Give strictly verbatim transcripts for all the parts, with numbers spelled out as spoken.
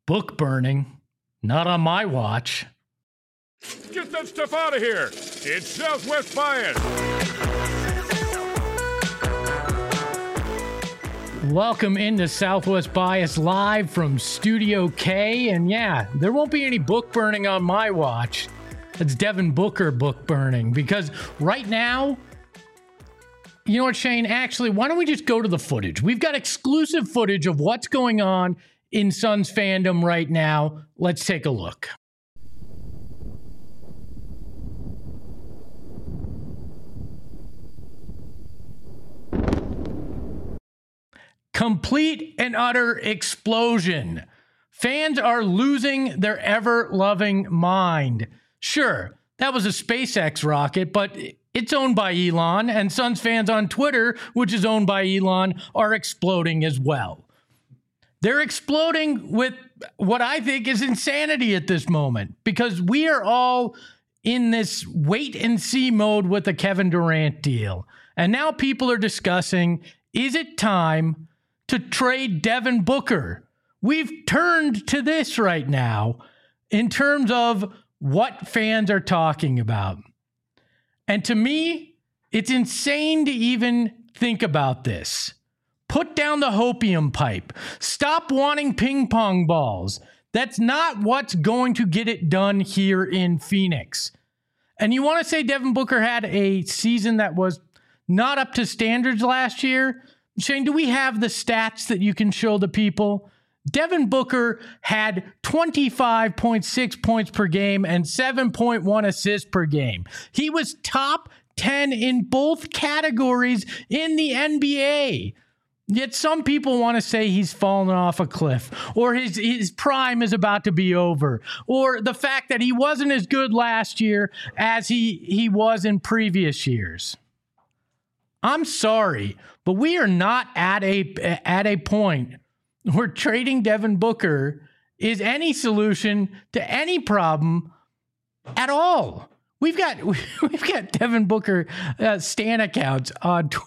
Book burning. Not on my watch. Get that stuff out of here. It's Southwest Bias. Welcome into Southwest Bias live from Studio K. And yeah, there won't be any book burning on my watch. It's Devin Booker book burning, because right now, you know what, Shane? Actually, why don't we just go to the footage? We've got exclusive footage of what's going on in Suns fandom right now. Let's take a look. Complete and utter explosion. Fans are losing their ever-loving mind. Sure, that was a SpaceX rocket, but it's owned by Elon, and Suns fans on Twitter, which is owned by Elon, are exploding as well. They're exploding with what I think is insanity at this moment, because we are all in this wait-and-see mode with the Kevin Durant deal. And now people are discussing, is it time to trade Devin Booker? We've turned to this right now in terms of what fans are talking about. And to me, it's insane to even think about this. Put down the hopium pipe. Stop wanting ping pong balls. That's not what's going to get it done here in Phoenix. And you want to say Devin Booker had a season that was not up to standards last year? Shane, do we have the stats that you can show the people? Devin Booker had twenty-five point six points per game and seven point one assists per game. He was top ten in both categories in the N B A. Yet some people want to say he's fallen off a cliff, or his, his prime is about to be over, or the fact that he wasn't as good last year as he, he was in previous years. I'm sorry, but we are not at a at a point where trading Devin Booker is any solution to any problem at all. We've got we've got Devin Booker uh, stan accounts on Twitter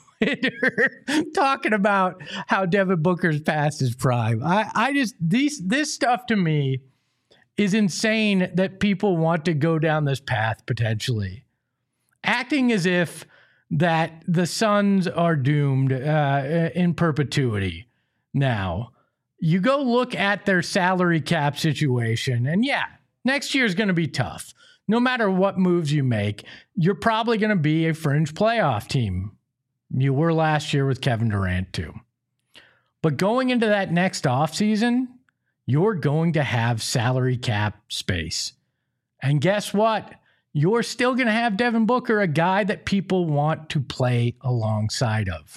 talking about how Devin Booker's past his prime. I, I just these this stuff to me is insane that people want to go down this path potentially, acting as if that the Suns are doomed uh, in perpetuity. Now, you go look at their salary cap situation, and yeah, next year is going to be tough. No matter what moves you make, you're probably going to be a fringe playoff team. You were last year with Kevin Durant too. But going into that next offseason, you're going to have salary cap space. And guess what? You're still going to have Devin Booker, a guy that people want to play alongside of.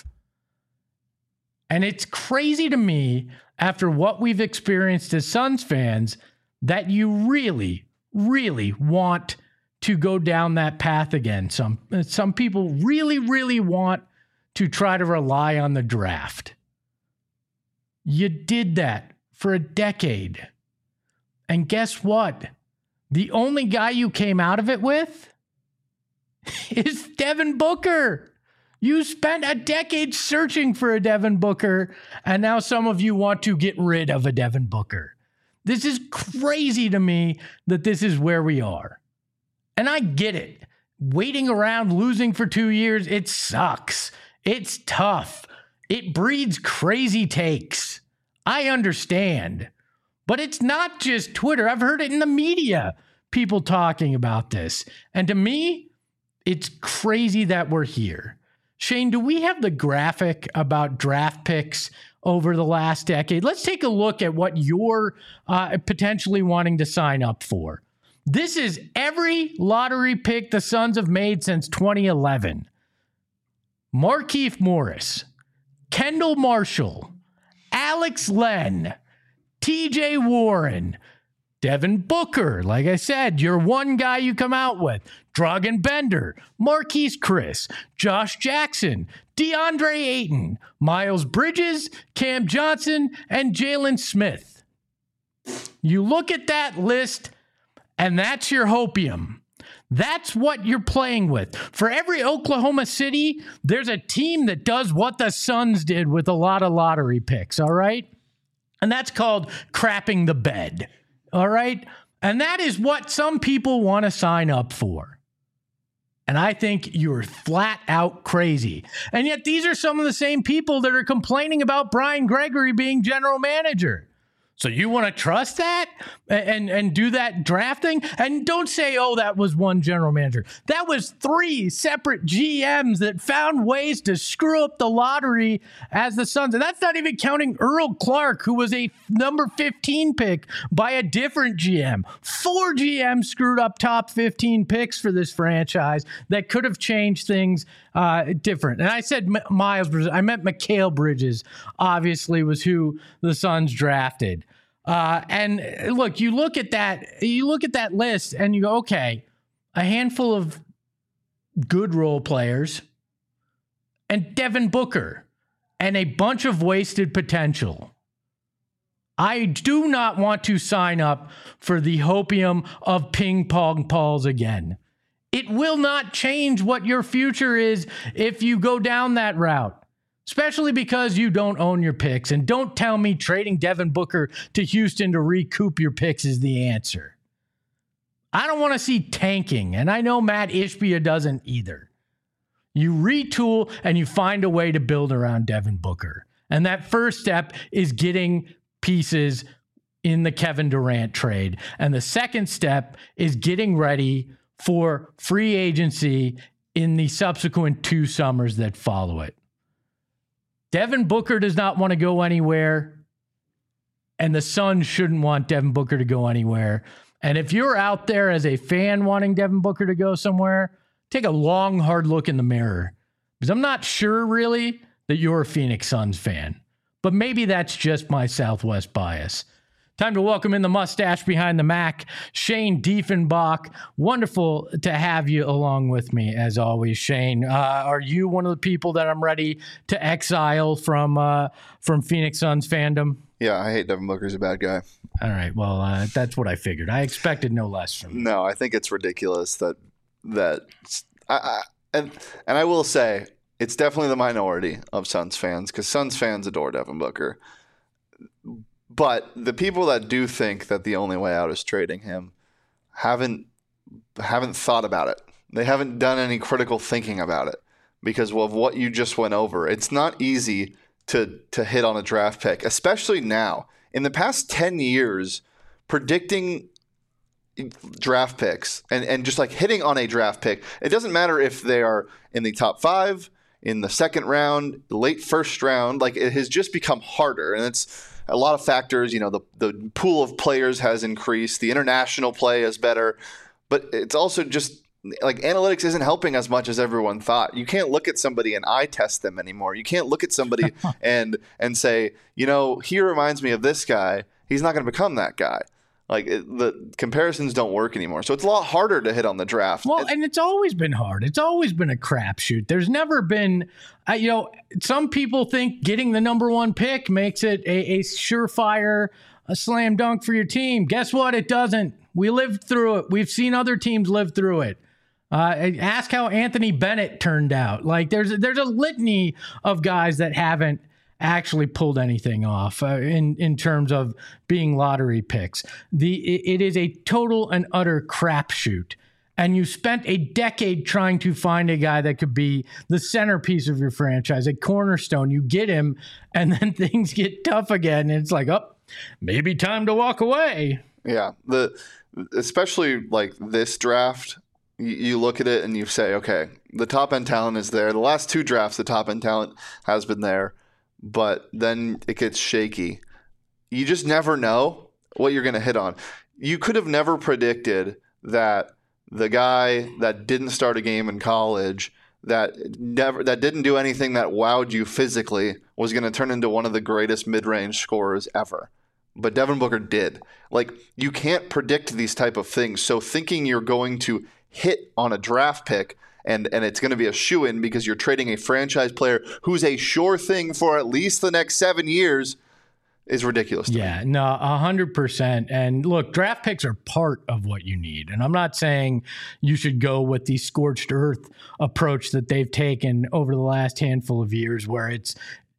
And it's crazy to me, after what we've experienced as Suns fans, that you really, really want to go down that path again. Some, some people really, really want to try to rely on the draft. You did that for a decade. And guess what? The only guy you came out of it with is Devin Booker. You spent a decade searching for a Devin Booker, and now some of you want to get rid of a Devin Booker. This is crazy to me that this is where we are. And I get it. Waiting around, losing for two years, it sucks. It's tough. It breeds crazy takes. I understand. But it's not just Twitter. I've heard it in the media, people talking about this. And to me, it's crazy that we're here. Shane, do we have the graphic about draft picks over the last decade? Let's take a look at what you're uh, potentially wanting to sign up for. This is every lottery pick the Suns have made since twenty eleven. Markieff Morris, Kendall Marshall, Alex Len, T J Warren, Devin Booker, like I said, you're one guy you come out with. Dragan Bender, Marquise Chris, Josh Jackson, DeAndre Ayton, Miles Bridges, Cam Johnson, and Jalen Smith. You look at that list, and that's your hopium. That's what you're playing with. For every Oklahoma City, there's a team that does what the Suns did with a lot of lottery picks, all right? And that's called crapping the bed. All right. And that is what some people want to sign up for. And I think you're flat out crazy. And yet these are some of the same people that are complaining about Brian Gregory being general manager. So you want to trust that and, and do that drafting? And don't say, oh, that was one general manager. That was three separate G Ms that found ways to screw up the lottery as the Suns. And that's not even counting Earl Clark, who was a number fifteen pick by a different G M. Four G Ms screwed up top fifteen picks for this franchise that could have changed things uh, different. And I said M- Miles Bridges. I meant Mikal Bridges, obviously, was who the Suns drafted. Uh, and look, you look at that, you look at that list and you go, okay, a handful of good role players and Devin Booker and a bunch of wasted potential. I do not want to sign up for the hopium of ping pong balls again. It will not change what your future is if you go down that route. Especially because you don't own your picks. And don't tell me trading Devin Booker to Houston to recoup your picks is the answer. I don't want to see tanking. And I know Matt Ishbia doesn't either. You retool and you find a way to build around Devin Booker. And that first step is getting pieces in the Kevin Durant trade. And the second step is getting ready for free agency in the subsequent two summers that follow it. Devin Booker does not want to go anywhere, and the Suns shouldn't want Devin Booker to go anywhere. And if you're out there as a fan wanting Devin Booker to go somewhere, take a long, hard look in the mirror. Because I'm not sure, really, that you're a Phoenix Suns fan. But maybe that's just my Southwest bias. Time to welcome in the mustache behind the Mac, Shane Diefenbach. Wonderful to have you along with me, as always, Shane. Uh, are you one of the people that I'm ready to exile from uh, from Phoenix Suns fandom? Yeah, I hate Devin Booker. He's a bad guy. All right, well, uh, that's what I figured. I expected no less from you. No, I think it's ridiculous that that I, I and and I will say it's definitely the minority of Suns fans because Suns fans adore Devin Booker. But the people that do think that the only way out is trading him haven't haven't thought about it. They haven't done any critical thinking about it because of what you just went over. It's not easy to to hit on a draft pick, especially now. In the past ten years, predicting draft picks and, and just like hitting on a draft pick, it doesn't matter if they are in the top five, in the second round, late first round, like it has just become harder. And it's a lot of factors, you know, the, the pool of players has increased. The international play is better. But it's also just like analytics isn't helping as much as everyone thought. You can't look at somebody and eye test them anymore. You can't look at somebody and and say, you know, he reminds me of this guy. He's not going to become that guy. Like it, the comparisons don't work anymore. So it's a lot harder to hit on the draft. Well, and, and it's always been hard. It's always been a crapshoot. There's never been, uh, you know, some people think getting the number one pick makes it a, a surefire, a slam dunk for your team. Guess what? It doesn't. We lived through it. We've seen other teams live through it. Uh, ask how Anthony Bennett turned out. Like there's there's a litany of guys that haven't actually pulled anything off uh, in in terms of being lottery picks. The it, it is a total and utter crapshoot. And you spent a decade trying to find a guy that could be the centerpiece of your franchise, a cornerstone. You get him, and then things get tough again, and it's like, oh, maybe time to walk away. Yeah, the especially like this draft. You look at it and you say, okay, the top end talent is there. The last two drafts, the top end talent has been there, but then it gets shaky. You just never know what you're going to hit on. You could have never predicted that the guy that didn't start a game in college, that never that didn't do anything that wowed you physically, was going to turn into one of the greatest mid-range scorers ever. But Devin Booker did. Like, you can't predict these type of things. So thinking you're going to hit on a draft pick and and it's going to be a shoo-in because you're trading a franchise player who's a sure thing for at least the next seven years is ridiculous to yeah, me. no, one hundred percent. And look, draft picks are part of what you need. And I'm not saying you should go with the scorched earth approach that they've taken over the last handful of years where it's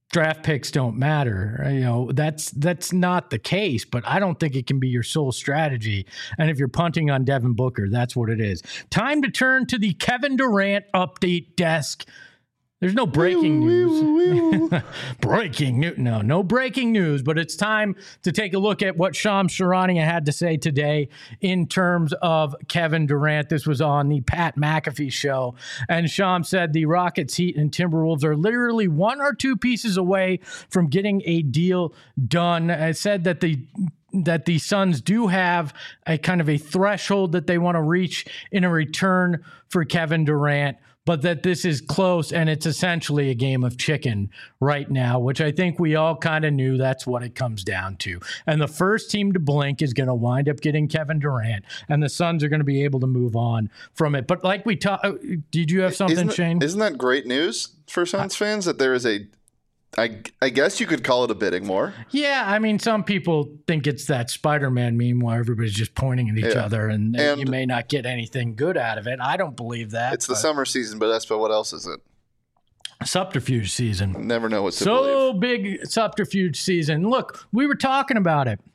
draft picks don't matter. You know, that's that's not the case, but I don't think it can be your sole strategy. And if you're punting on Devin Booker, that's what it is. Time to turn to the Kevin Durant update desk. There's no breaking news. breaking news. No, no breaking news, but it's time to take a look at what Shams Charania had to say today in terms of Kevin Durant. This was on the Pat McAfee show. And Shams said the Rockets, Heat, and Timberwolves are literally one or two pieces away from getting a deal done. I said that the that the Suns do have a kind of a threshold that they want to reach in a return for Kevin Durant, but that this is close and it's essentially a game of chicken right now, which I think we all kind of knew that's what it comes down to. And the first team to blink is going to wind up getting Kevin Durant, and the Suns are going to be able to move on from it. But like we talked, did you have something, isn't that, Shane? Isn't that great news for Suns uh, fans that there is a, I, I guess you could call it a bidding war. Yeah, I mean, some people think it's that Spider-Man meme where everybody's just pointing at each yeah. other and, and you may not get anything good out of it. I don't believe that. It's the summer season, but that's but what else is it? Subterfuge season. Never know what to so believe. Big subterfuge season. Look, we were talking about it.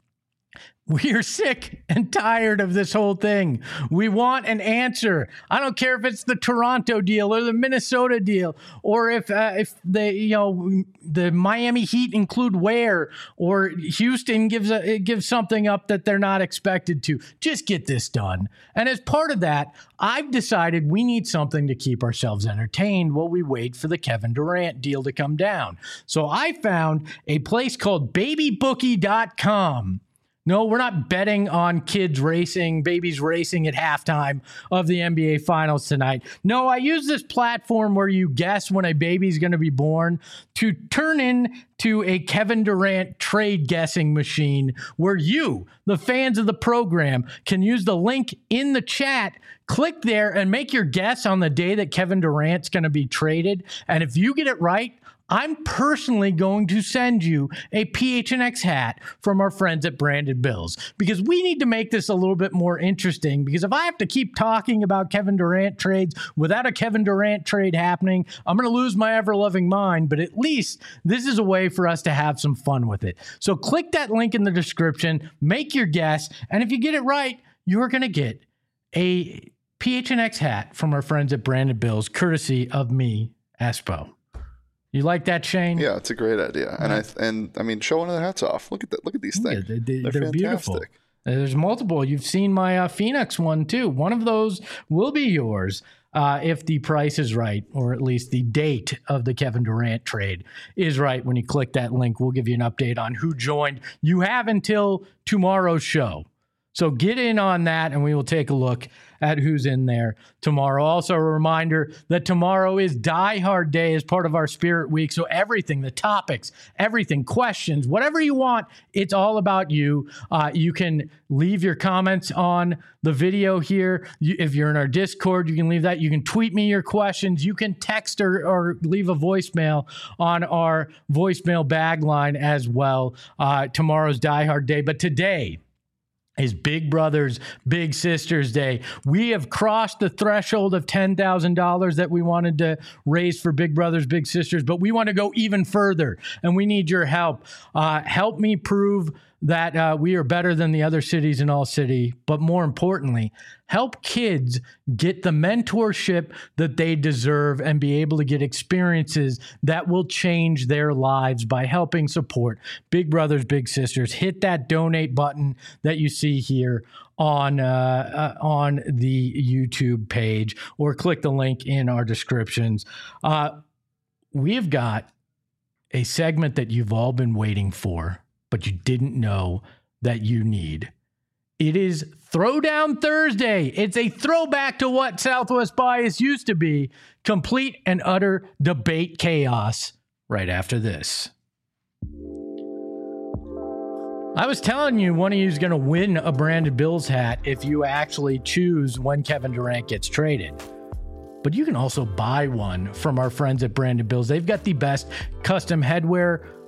We are sick and tired of this whole thing. We want an answer. I don't care if it's the Toronto deal or the Minnesota deal, or if uh, if the you know the Miami Heat include Ware, or Houston gives a gives something up that they're not expected to. Just get this done. And as part of that, I've decided we need something to keep ourselves entertained while we wait for the Kevin Durant deal to come down. So I found a place called baby bookie dot com. No, we're not betting on kids racing, babies racing at halftime of the N B A Finals tonight. No, I use this platform where you guess when a baby's going to be born to turn into a Kevin Durant trade guessing machine where you, the fans of the program, can use the link in the chat, click there, and make your guess on the day that Kevin Durant's going to be traded. And if you get it right, I'm personally going to send you a P H N X hat from our friends at Branded Bills, because we need to make this a little bit more interesting, because if I have to keep talking about Kevin Durant trades without a Kevin Durant trade happening, I'm going to lose my ever-loving mind, but at least this is a way for us to have some fun with it. So click that link in the description, make your guess, and if you get it right, you're going to get a P H N X hat from our friends at Branded Bills, courtesy of me, Espo. You like that, Shane? Yeah, it's a great idea, and I and I mean, show one of their hats off. Look at that! Look at these things. Yeah, they, they're they're beautiful. There's multiple. You've seen my uh, Phoenix one too. One of those will be yours uh, if the price is right, or at least the date of the Kevin Durant trade is right. When you click that link, we'll give you an update on who joined. You have until tomorrow's show. So get in on that, and we will take a look at who's in there tomorrow. Also, a reminder that tomorrow is Die Hard Day as part of our Spirit Week. So everything, the topics, everything, questions, whatever you want, it's all about you. Uh, you can leave your comments on the video here. You, if you're in our Discord, you can leave that. You can tweet me your questions. You can text or, or leave a voicemail on our voicemail bag line as well. Uh, tomorrow's Die Hard Day. But today is Big Brothers Big Sisters Day. We have crossed the threshold of ten thousand dollars that we wanted to raise for Big Brothers Big Sisters, but we want to go even further, and we need your help. Uh, help me prove that uh, we are better than the other cities in All City, but more importantly, help kids get the mentorship that they deserve and be able to get experiences that will change their lives by helping support Big Brothers Big Sisters. Hit that donate button that you see here on uh, uh, on the YouTube page, or click the link in our descriptions. Uh, we've got a segment that you've all been waiting for, but you didn't know that you need. It is Throwdown Thursday. It's a throwback to what Southwest Bias used to be. Complete and utter debate chaos right after this. I was telling you one of you is going to win a Branded Bills hat if you actually choose when Kevin Durant gets traded. But you can also buy one from our friends at Branded Bills. They've got the best custom headwear,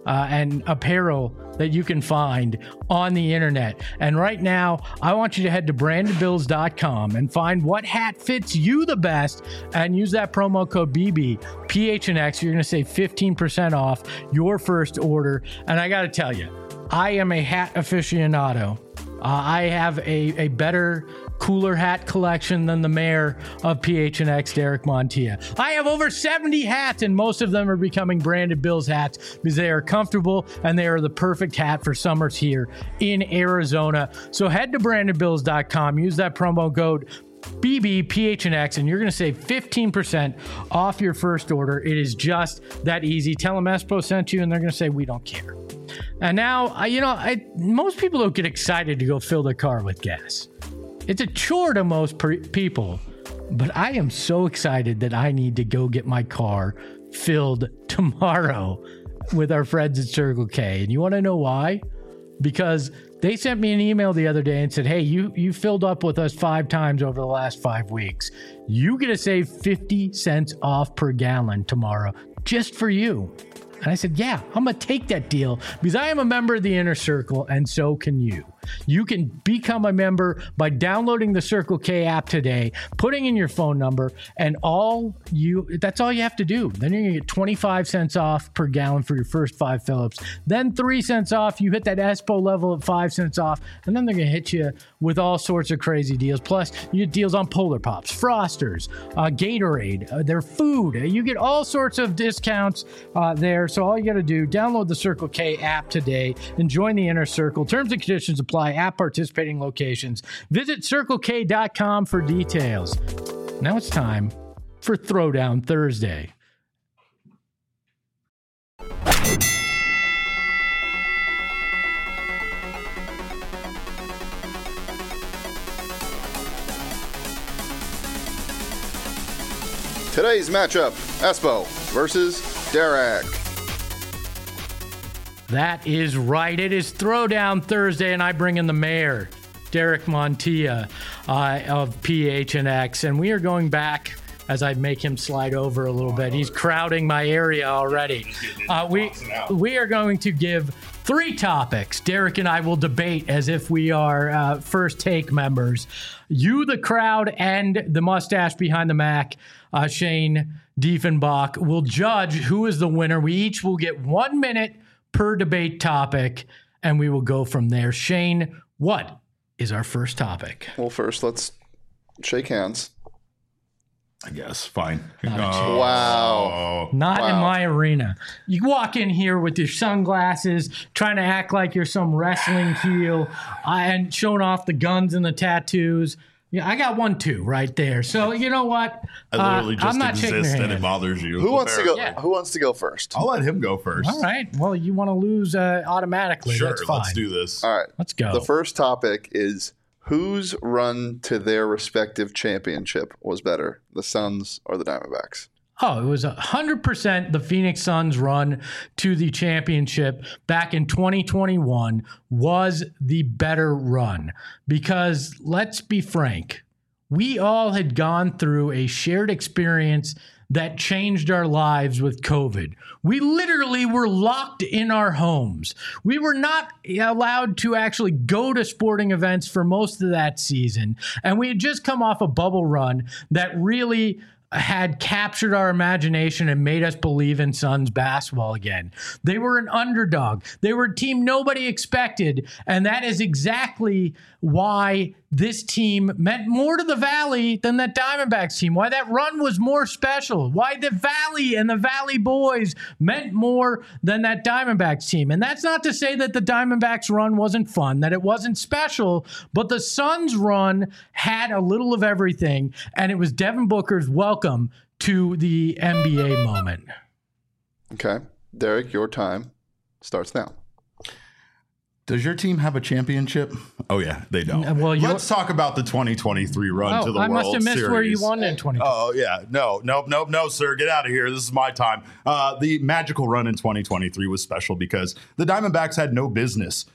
uh, and apparel that you can find on the internet. And right now, I want you to head to branded bills dot com and find what hat fits you the best and use that promo code B B, P H N X. You're going to save fifteen percent off your first order. And I got to tell you, I am a hat aficionado. Uh, I have a, a better, cooler hat collection than the mayor of P H N X, Derek Montilla. I have over seventy hats, and most of them are becoming Branded Bills hats because they are comfortable and they are the perfect hat for summers here in Arizona. So head to branded bills dot com, use that promo code B B P H N X, and you're going to save fifteen percent off your first order. It is just that easy. Tell them Espo sent you, and they're going to say, we don't care. And now, you know, I, most people don't get excited to go fill their car with gas. It's a chore to most pre- people, but I am so excited that I need to go get my car filled tomorrow with our friends at Circle K. And you want to know why? Because they sent me an email the other day and said, hey, you, you filled up with us five times over the last five weeks. You get to save fifty cents off per gallon tomorrow just for you. And I said, yeah, I'm going to take that deal because I am a member of the Inner Circle, and so can you. You can become a member by downloading the Circle K app today, putting in your phone number, and all you that's all you have to do. Then you're going to get twenty-five cents off per gallon for your first five fill-ups. Then three cents off. You hit that Espo level at five cents off, and then they're going to hit you with all sorts of crazy deals. Plus, you get deals on Polar Pops, Frosters, uh, Gatorade, uh, their food. You get all sorts of discounts uh, there. So all you got to do, download the Circle K app today and join the Inner Circle. Terms and conditions apply at participating locations. Visit circle k dot com for details. Now it's time for Throwdown Thursday. Today's matchup, Espo versus Derek. That is right. It is Throwdown Thursday, and I bring in the mayor, Derek Montilla uh, of P H N X, and we are going back as I make him slide over a little bit. He's crowding my area already. Uh, we we are going to give three topics. Derek and I will debate as if we are uh, First Take members. You, the crowd, and the mustache behind the Mac, uh, Shane Diefenbach, will judge who is the winner. We each will get one minute per debate topic, and we will go from there. Shane, what is our first topic? Well, first, let's shake hands. I guess. Fine. Not Oh. Wow. Not Wow. in my arena. You walk in here with your sunglasses, trying to act like you're some wrestling heel, uh, and showing off the guns and the tattoos. Yeah, I got one too right there. So you know what? I literally Uh, just I'm not shaking exist your and it hand. bothers you. Who wants to go? Yeah. Who wants to go first? I'll let him go first. All right. Well, you want to lose uh, automatically. Sure, That's fine. let's do this. All right. Let's go. The first topic is whose run to their respective championship was better, the Suns or the Diamondbacks? Oh, it was one hundred percent the Phoenix Suns' run to the championship back in twenty twenty-one was the better run. Because let's be frank, we all had gone through a shared experience that changed our lives with COVID. We literally were locked in our homes. We were not allowed to actually go to sporting events for most of that season. And we had just come off a bubble run that really had captured our imagination and made us believe in Suns basketball again. They were an underdog. They were a team nobody expected. And that is exactly why this team meant more to the Valley than that Diamondbacks team, why that run was more special, why the Valley and the Valley boys meant more than that Diamondbacks team. And that's not to say that the Diamondbacks run wasn't fun, that it wasn't special, but the Suns run had a little of everything, and it was Devin Booker's welcome to the N B A moment. Okay. Derek, your time starts now. Does your team have a championship? Oh, yeah, they don't. Uh, well, you're- Let's talk about the twenty twenty-three run Oh, to the I World must have missed Series. where you won in twenty twenty. Oh, yeah. No, nope, nope, no, sir. Get out of here. This is my time. Uh, the magical run in twenty twenty-three was special because the Diamondbacks had no business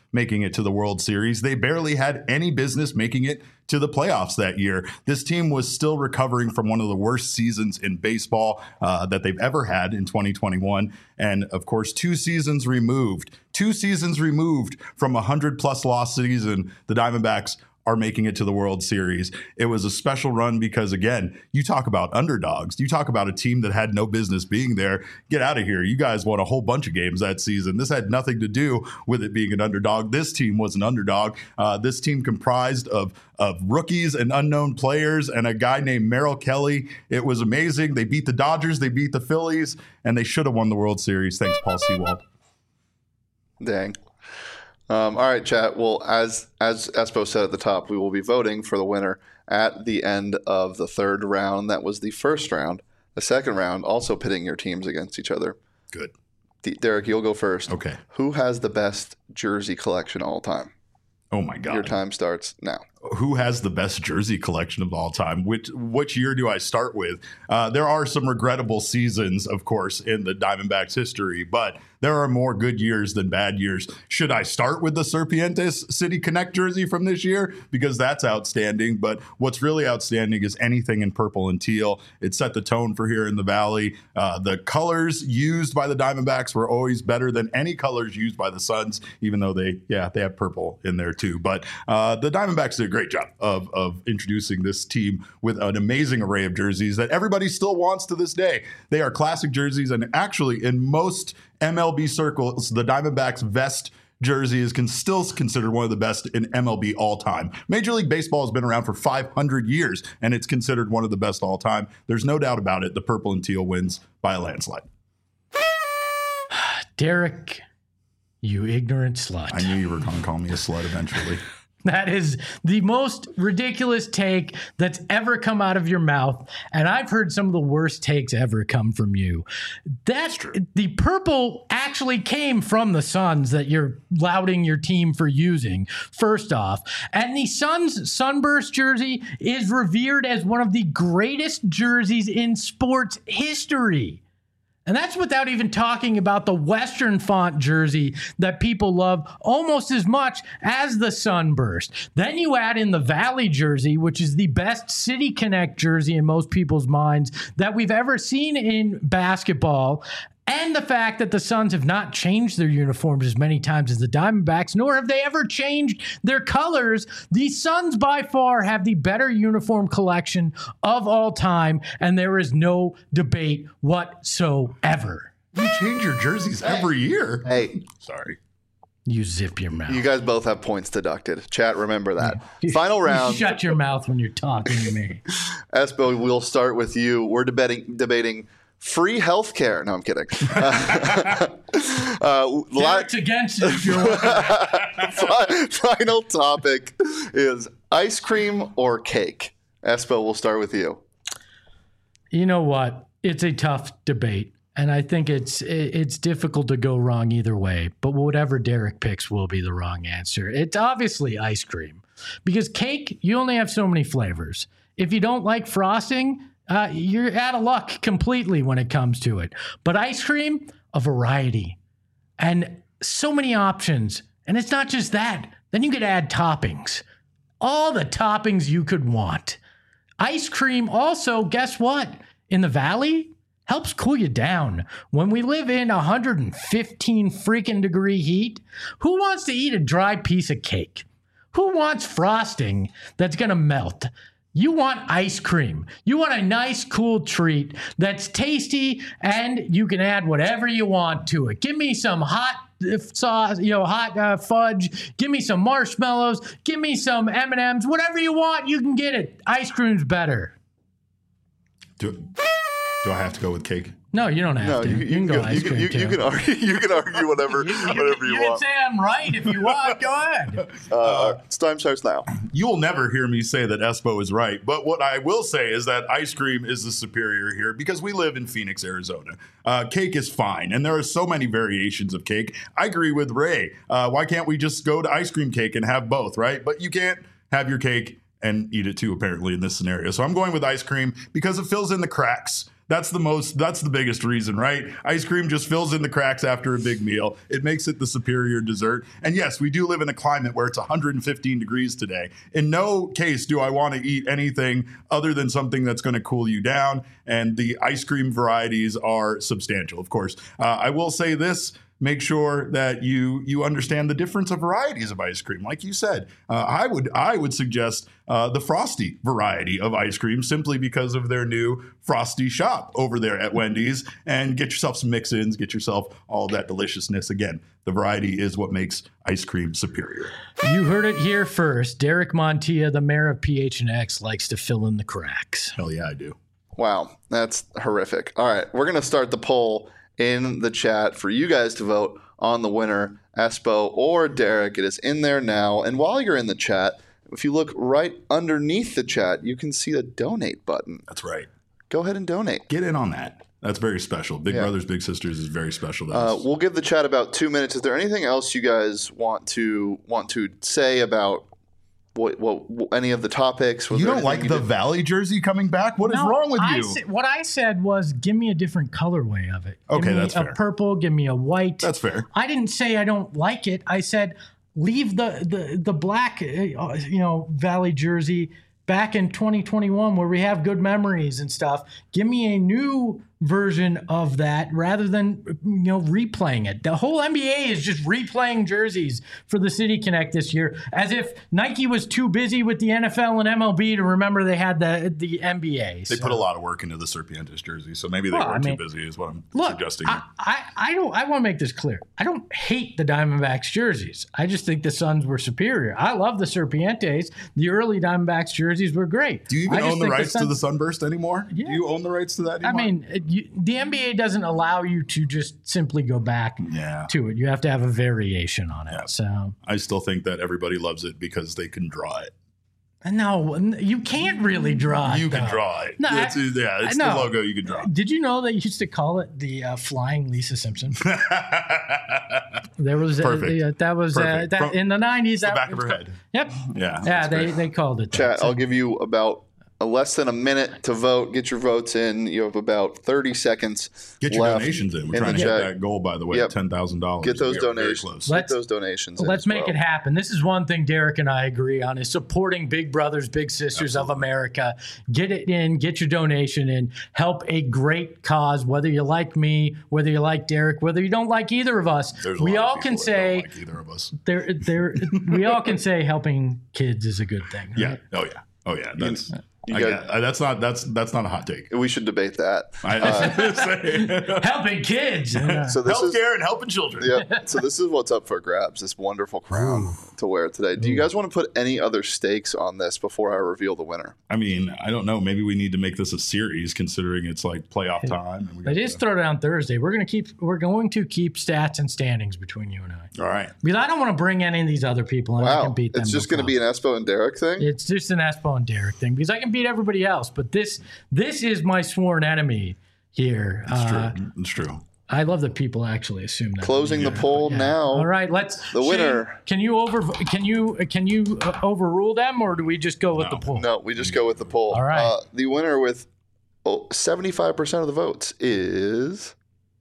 making it to the World Series. They barely had any business making it to the playoffs that year. This team was still recovering from one of the worst seasons in baseball uh, that they've ever had in twenty twenty-one. And of course, two seasons removed, two seasons removed from a hundred plus loss season, the Diamondbacks are making it to the World Series. It was a special run because, again, you talk about underdogs. You talk about a team that had no business being there. Get out of here. You guys won a whole bunch of games that season. This had nothing to do with it being an underdog. This team was an underdog. Uh, this team comprised of, of rookies and unknown players and a guy named Merrill Kelly. It was amazing. They beat the Dodgers. They beat the Phillies, and they should have won the World Series. Thanks, Paul Sewald. Dang. Um, all right, chat. Well, as as Espo said at the top, we will be voting for the winner at the end of the third round. That was the first round. The second round, also pitting your teams against each other. Good. D- Derek, you'll go first. Okay. Who has the best jersey collection all time? Oh, my God. Your time starts now. Who has the best jersey collection of all time? Which which year do I start with? Uh, there are some regrettable seasons, of course, in the Diamondbacks history, but there are more good years than bad years. Should I start with the Serpientes City Connect jersey from this year? Because that's outstanding. But what's really outstanding is anything in purple and teal. It set the tone for here in the Valley. Uh, the colors used by the Diamondbacks were always better than any colors used by the Suns, even though they, yeah, they have purple in there too. But uh, the Diamondbacks did a great job of, of introducing this team with an amazing array of jerseys that everybody still wants to this day. They are classic jerseys, and actually in most M L B circles, the Diamondbacks vest jersey is can still considered one of the best in M L B all time. Major League Baseball has been around for five hundred years, and it's considered one of the best all time. There's no doubt about it. The purple and teal wins by a landslide. Derek, you ignorant slut. I knew you were going to call me a slut eventually. That is the most ridiculous take that's ever come out of your mouth. And I've heard some of the worst takes ever come from you. That's true. The purple actually came from the Suns that you're lauding your team for using, first off. And the Suns Sunburst jersey is revered as one of the greatest jerseys in sports history. And that's without even talking about the Western font jersey that people love almost as much as the Sunburst. Then you add in the Valley jersey, which is the best City Connect jersey in most people's minds that we've ever seen in basketball. And the fact that the Suns have not changed their uniforms as many times as the Diamondbacks, nor have they ever changed their colors. The Suns by far have the better uniform collection of all time, and there is no debate whatsoever. You change your jerseys every year. Hey, sorry. You zip your mouth. You guys both have points deducted. Chat, remember that. Final round. You shut your mouth when you're talking to me. Espo, we'll start with you. We're debating debating free health care. No, I'm kidding. Uh, uh, Derek's against it if you're Final topic is ice cream or cake. Espo, we'll start with you. You know what? It's a tough debate. And I think it's it's difficult to go wrong either way. But whatever Derek picks will be the wrong answer. It's obviously ice cream. Because cake, you only have so many flavors. If you don't like frosting, Uh, you're out of luck completely when it comes to it. But ice cream, a variety and so many options. And it's not just that. Then you could add toppings, all the toppings you could want. Ice cream also, guess what? In the Valley, helps cool you down. When we live in one hundred fifteen freaking degree heat, who wants to eat a dry piece of cake? Who wants frosting that's going to melt? You want ice cream. You want a nice, cool treat that's tasty, and you can add whatever you want to it. Give me some hot sauce, you know, hot uh, fudge. Give me some marshmallows. Give me some M and M's. Whatever you want, you can get it. Ice cream's better. Do, do I have to go with cake? No, you don't have no, to. You, You, you can go you, ice you, cream you, too. you can argue. You can argue whatever, you, whatever you, you want. can say I'm right if you want. Go ahead. Uh, time starts now. You will never hear me say that Espo is right, but what I will say is that ice cream is the superior here because we live in Phoenix, Arizona. Uh, cake is fine, and there are so many variations of cake. I agree with Ray. Uh, why can't we just go to ice cream cake and have both, right? But you can't have your cake and eat it too, apparently, in this scenario. So I'm going with ice cream because it fills in the cracks That's the most, that's the biggest reason, right? Ice cream just fills in the cracks after a big meal. It makes it the superior dessert. And yes, we do live in a climate where it's one hundred fifteen degrees today. In no case do I want to eat anything other than something that's going to cool you down. And the ice cream varieties are substantial, of course. Uh, I will say this. Make sure that you you understand the difference of varieties of ice cream. Like you said, uh, I would I would suggest uh, the Frosty variety of ice cream simply because of their new Frosty shop over there at Wendy's. And get yourself some mix-ins, get yourself all that deliciousness. Again, the variety is what makes ice cream superior. You heard it here first. Derek Montilla, the mayor of P H N X, likes to fill in the cracks. Hell yeah, I do. Wow, that's horrific. All right, we're going to start the poll in the chat for you guys to vote on the winner, Espo or Derek. It is in there now. And while you're in the chat, if you look right underneath the chat, you can see the donate button. That's right. Go ahead and donate. Get in on that. That's very special. Big Yeah. Brothers Big Sisters is very special to Uh, us. we'll give the chat about two minutes. Is there anything else you guys want to want to say about what, what, what any of the topics? Was You there don't anything like you the did- Valley jersey coming back? What is No, wrong with I you? sa- what I said was, give me a different colorway of it. Give Okay, me that's a fair. purple. Give me a white. That's fair. I didn't say I don't like it. I said leave the the the black, uh, you know, Valley jersey back in twenty twenty-one where we have good memories and stuff. Give me a new version of that rather than, you know, replaying it. The whole N B A is just replaying jerseys for the City Connect this year, as if Nike was too busy with the N F L and M L B to remember they had the the N B A. They So- put a lot of work into the Serpientes jersey, so maybe they Well, weren't I mean, too busy is what I'm Look, suggesting. I, I, I don't. I want to make this clear. I don't hate the Diamondbacks jerseys. I just think the Suns were superior. I love the Serpientes. The early Diamondbacks jerseys were great. Do you even I just own the think rights to the Suns- Sunburst anymore? Yeah. Do you own the rights to that I anymore? mean, it- you, the N B A doesn't allow you to just simply go back yeah. to it. You have to have a variation on it. Yeah. So I still think that everybody loves it because they can draw it. no, you can't really draw. it, You can though. draw it. No, it's, I- yeah, it's I the know. logo you can draw. Did you know they used to call it the uh, flying Lisa Simpson? There was Perfect. Uh, that was uh, Perfect. that From in the nineties. the That back of was her called- head. Yep. Yeah. Yeah, that's they, great. they called it that. Chat, So- I'll give you about a less than a minute to vote. Get your votes in. You have about thirty seconds Get your left donations in. We're in trying the to hit chat. that goal, by the way, Yep. ten thousand dollars. Get those Very donations. close. Let's- Get those donations in Let's as make well. it happen. This is one thing Derek and I agree on is supporting Big Brothers, Big Sisters of America. Get it in, get your donation in, help a great cause, whether you like me, whether you like Derek, whether you don't like either of us. There's a We lot of all can people that don't say like either of us. there there we all can say helping kids is a good thing. Yeah. right? Oh yeah. Oh yeah. That's you I got- get- uh, that's not that's that's not a hot take. We should debate that. I, Uh, Helping kids. Yeah. so this is healthcare and helping children. yeah. So this is what's up for grabs. This wonderful crown to wear today. Do you guys want to put any other stakes on this before I reveal the winner? I mean, I don't know. Maybe we need to make this a series, considering it's like playoff time. And we got It is the- throw down Thursday. We're gonna keep we're going to keep stats and standings between you and I. all right. Because I don't want to bring any of these other people and I Wow, can beat them. it's just no going to be an Espo and Derek thing. It's just an Espo and Derek thing because I can beat everybody else. But this this is my sworn enemy here. It's Uh, true. It's true. I love that people actually assume that. Closing the poll Yeah. now. All right, let's The Shane, winner. Can you over? Can you can you uh, overrule them, or do we just go with No. the poll? No, we just go with the poll. All right. Uh, the winner with oh, seventy-five percent of the votes is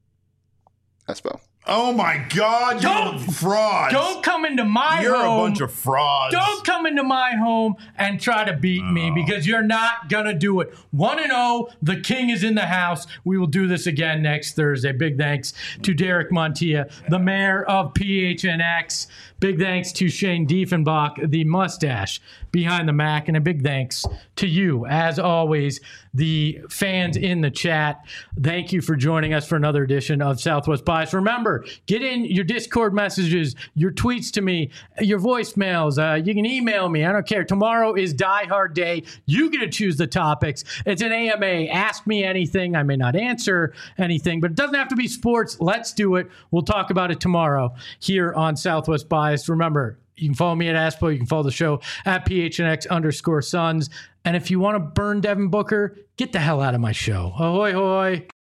Espo. Oh my God! Don't- You're frauds. Don't come into my You're home. a bunch of frauds. Don't come into my home and try to beat me because you're not gonna do it. One and zero. The king is in the house. We will do this again next Thursday. Big thanks to Derek Montilla, the mayor of P H N X. Big thanks to Shane Diefenbach, the mustache behind the Mac, and a big thanks to you, as always, the fans in the chat. Thank you for joining us for another edition of Southwest Bias. Remember, get in your Discord messages, your tweets to me, your voicemails. Uh, you can email me. I don't care. Tomorrow is Die Hard Day. You get to choose the topics. It's an A M A. Ask me anything. I may not answer anything, but it doesn't have to be sports. Let's do it. We'll talk about it tomorrow here on Southwest Bias. Remember, you can follow me at Aspo. You can follow the show at P H N X underscore Suns. And if you want to burn Devin Booker, get the hell out of my show. Ahoy, hoy.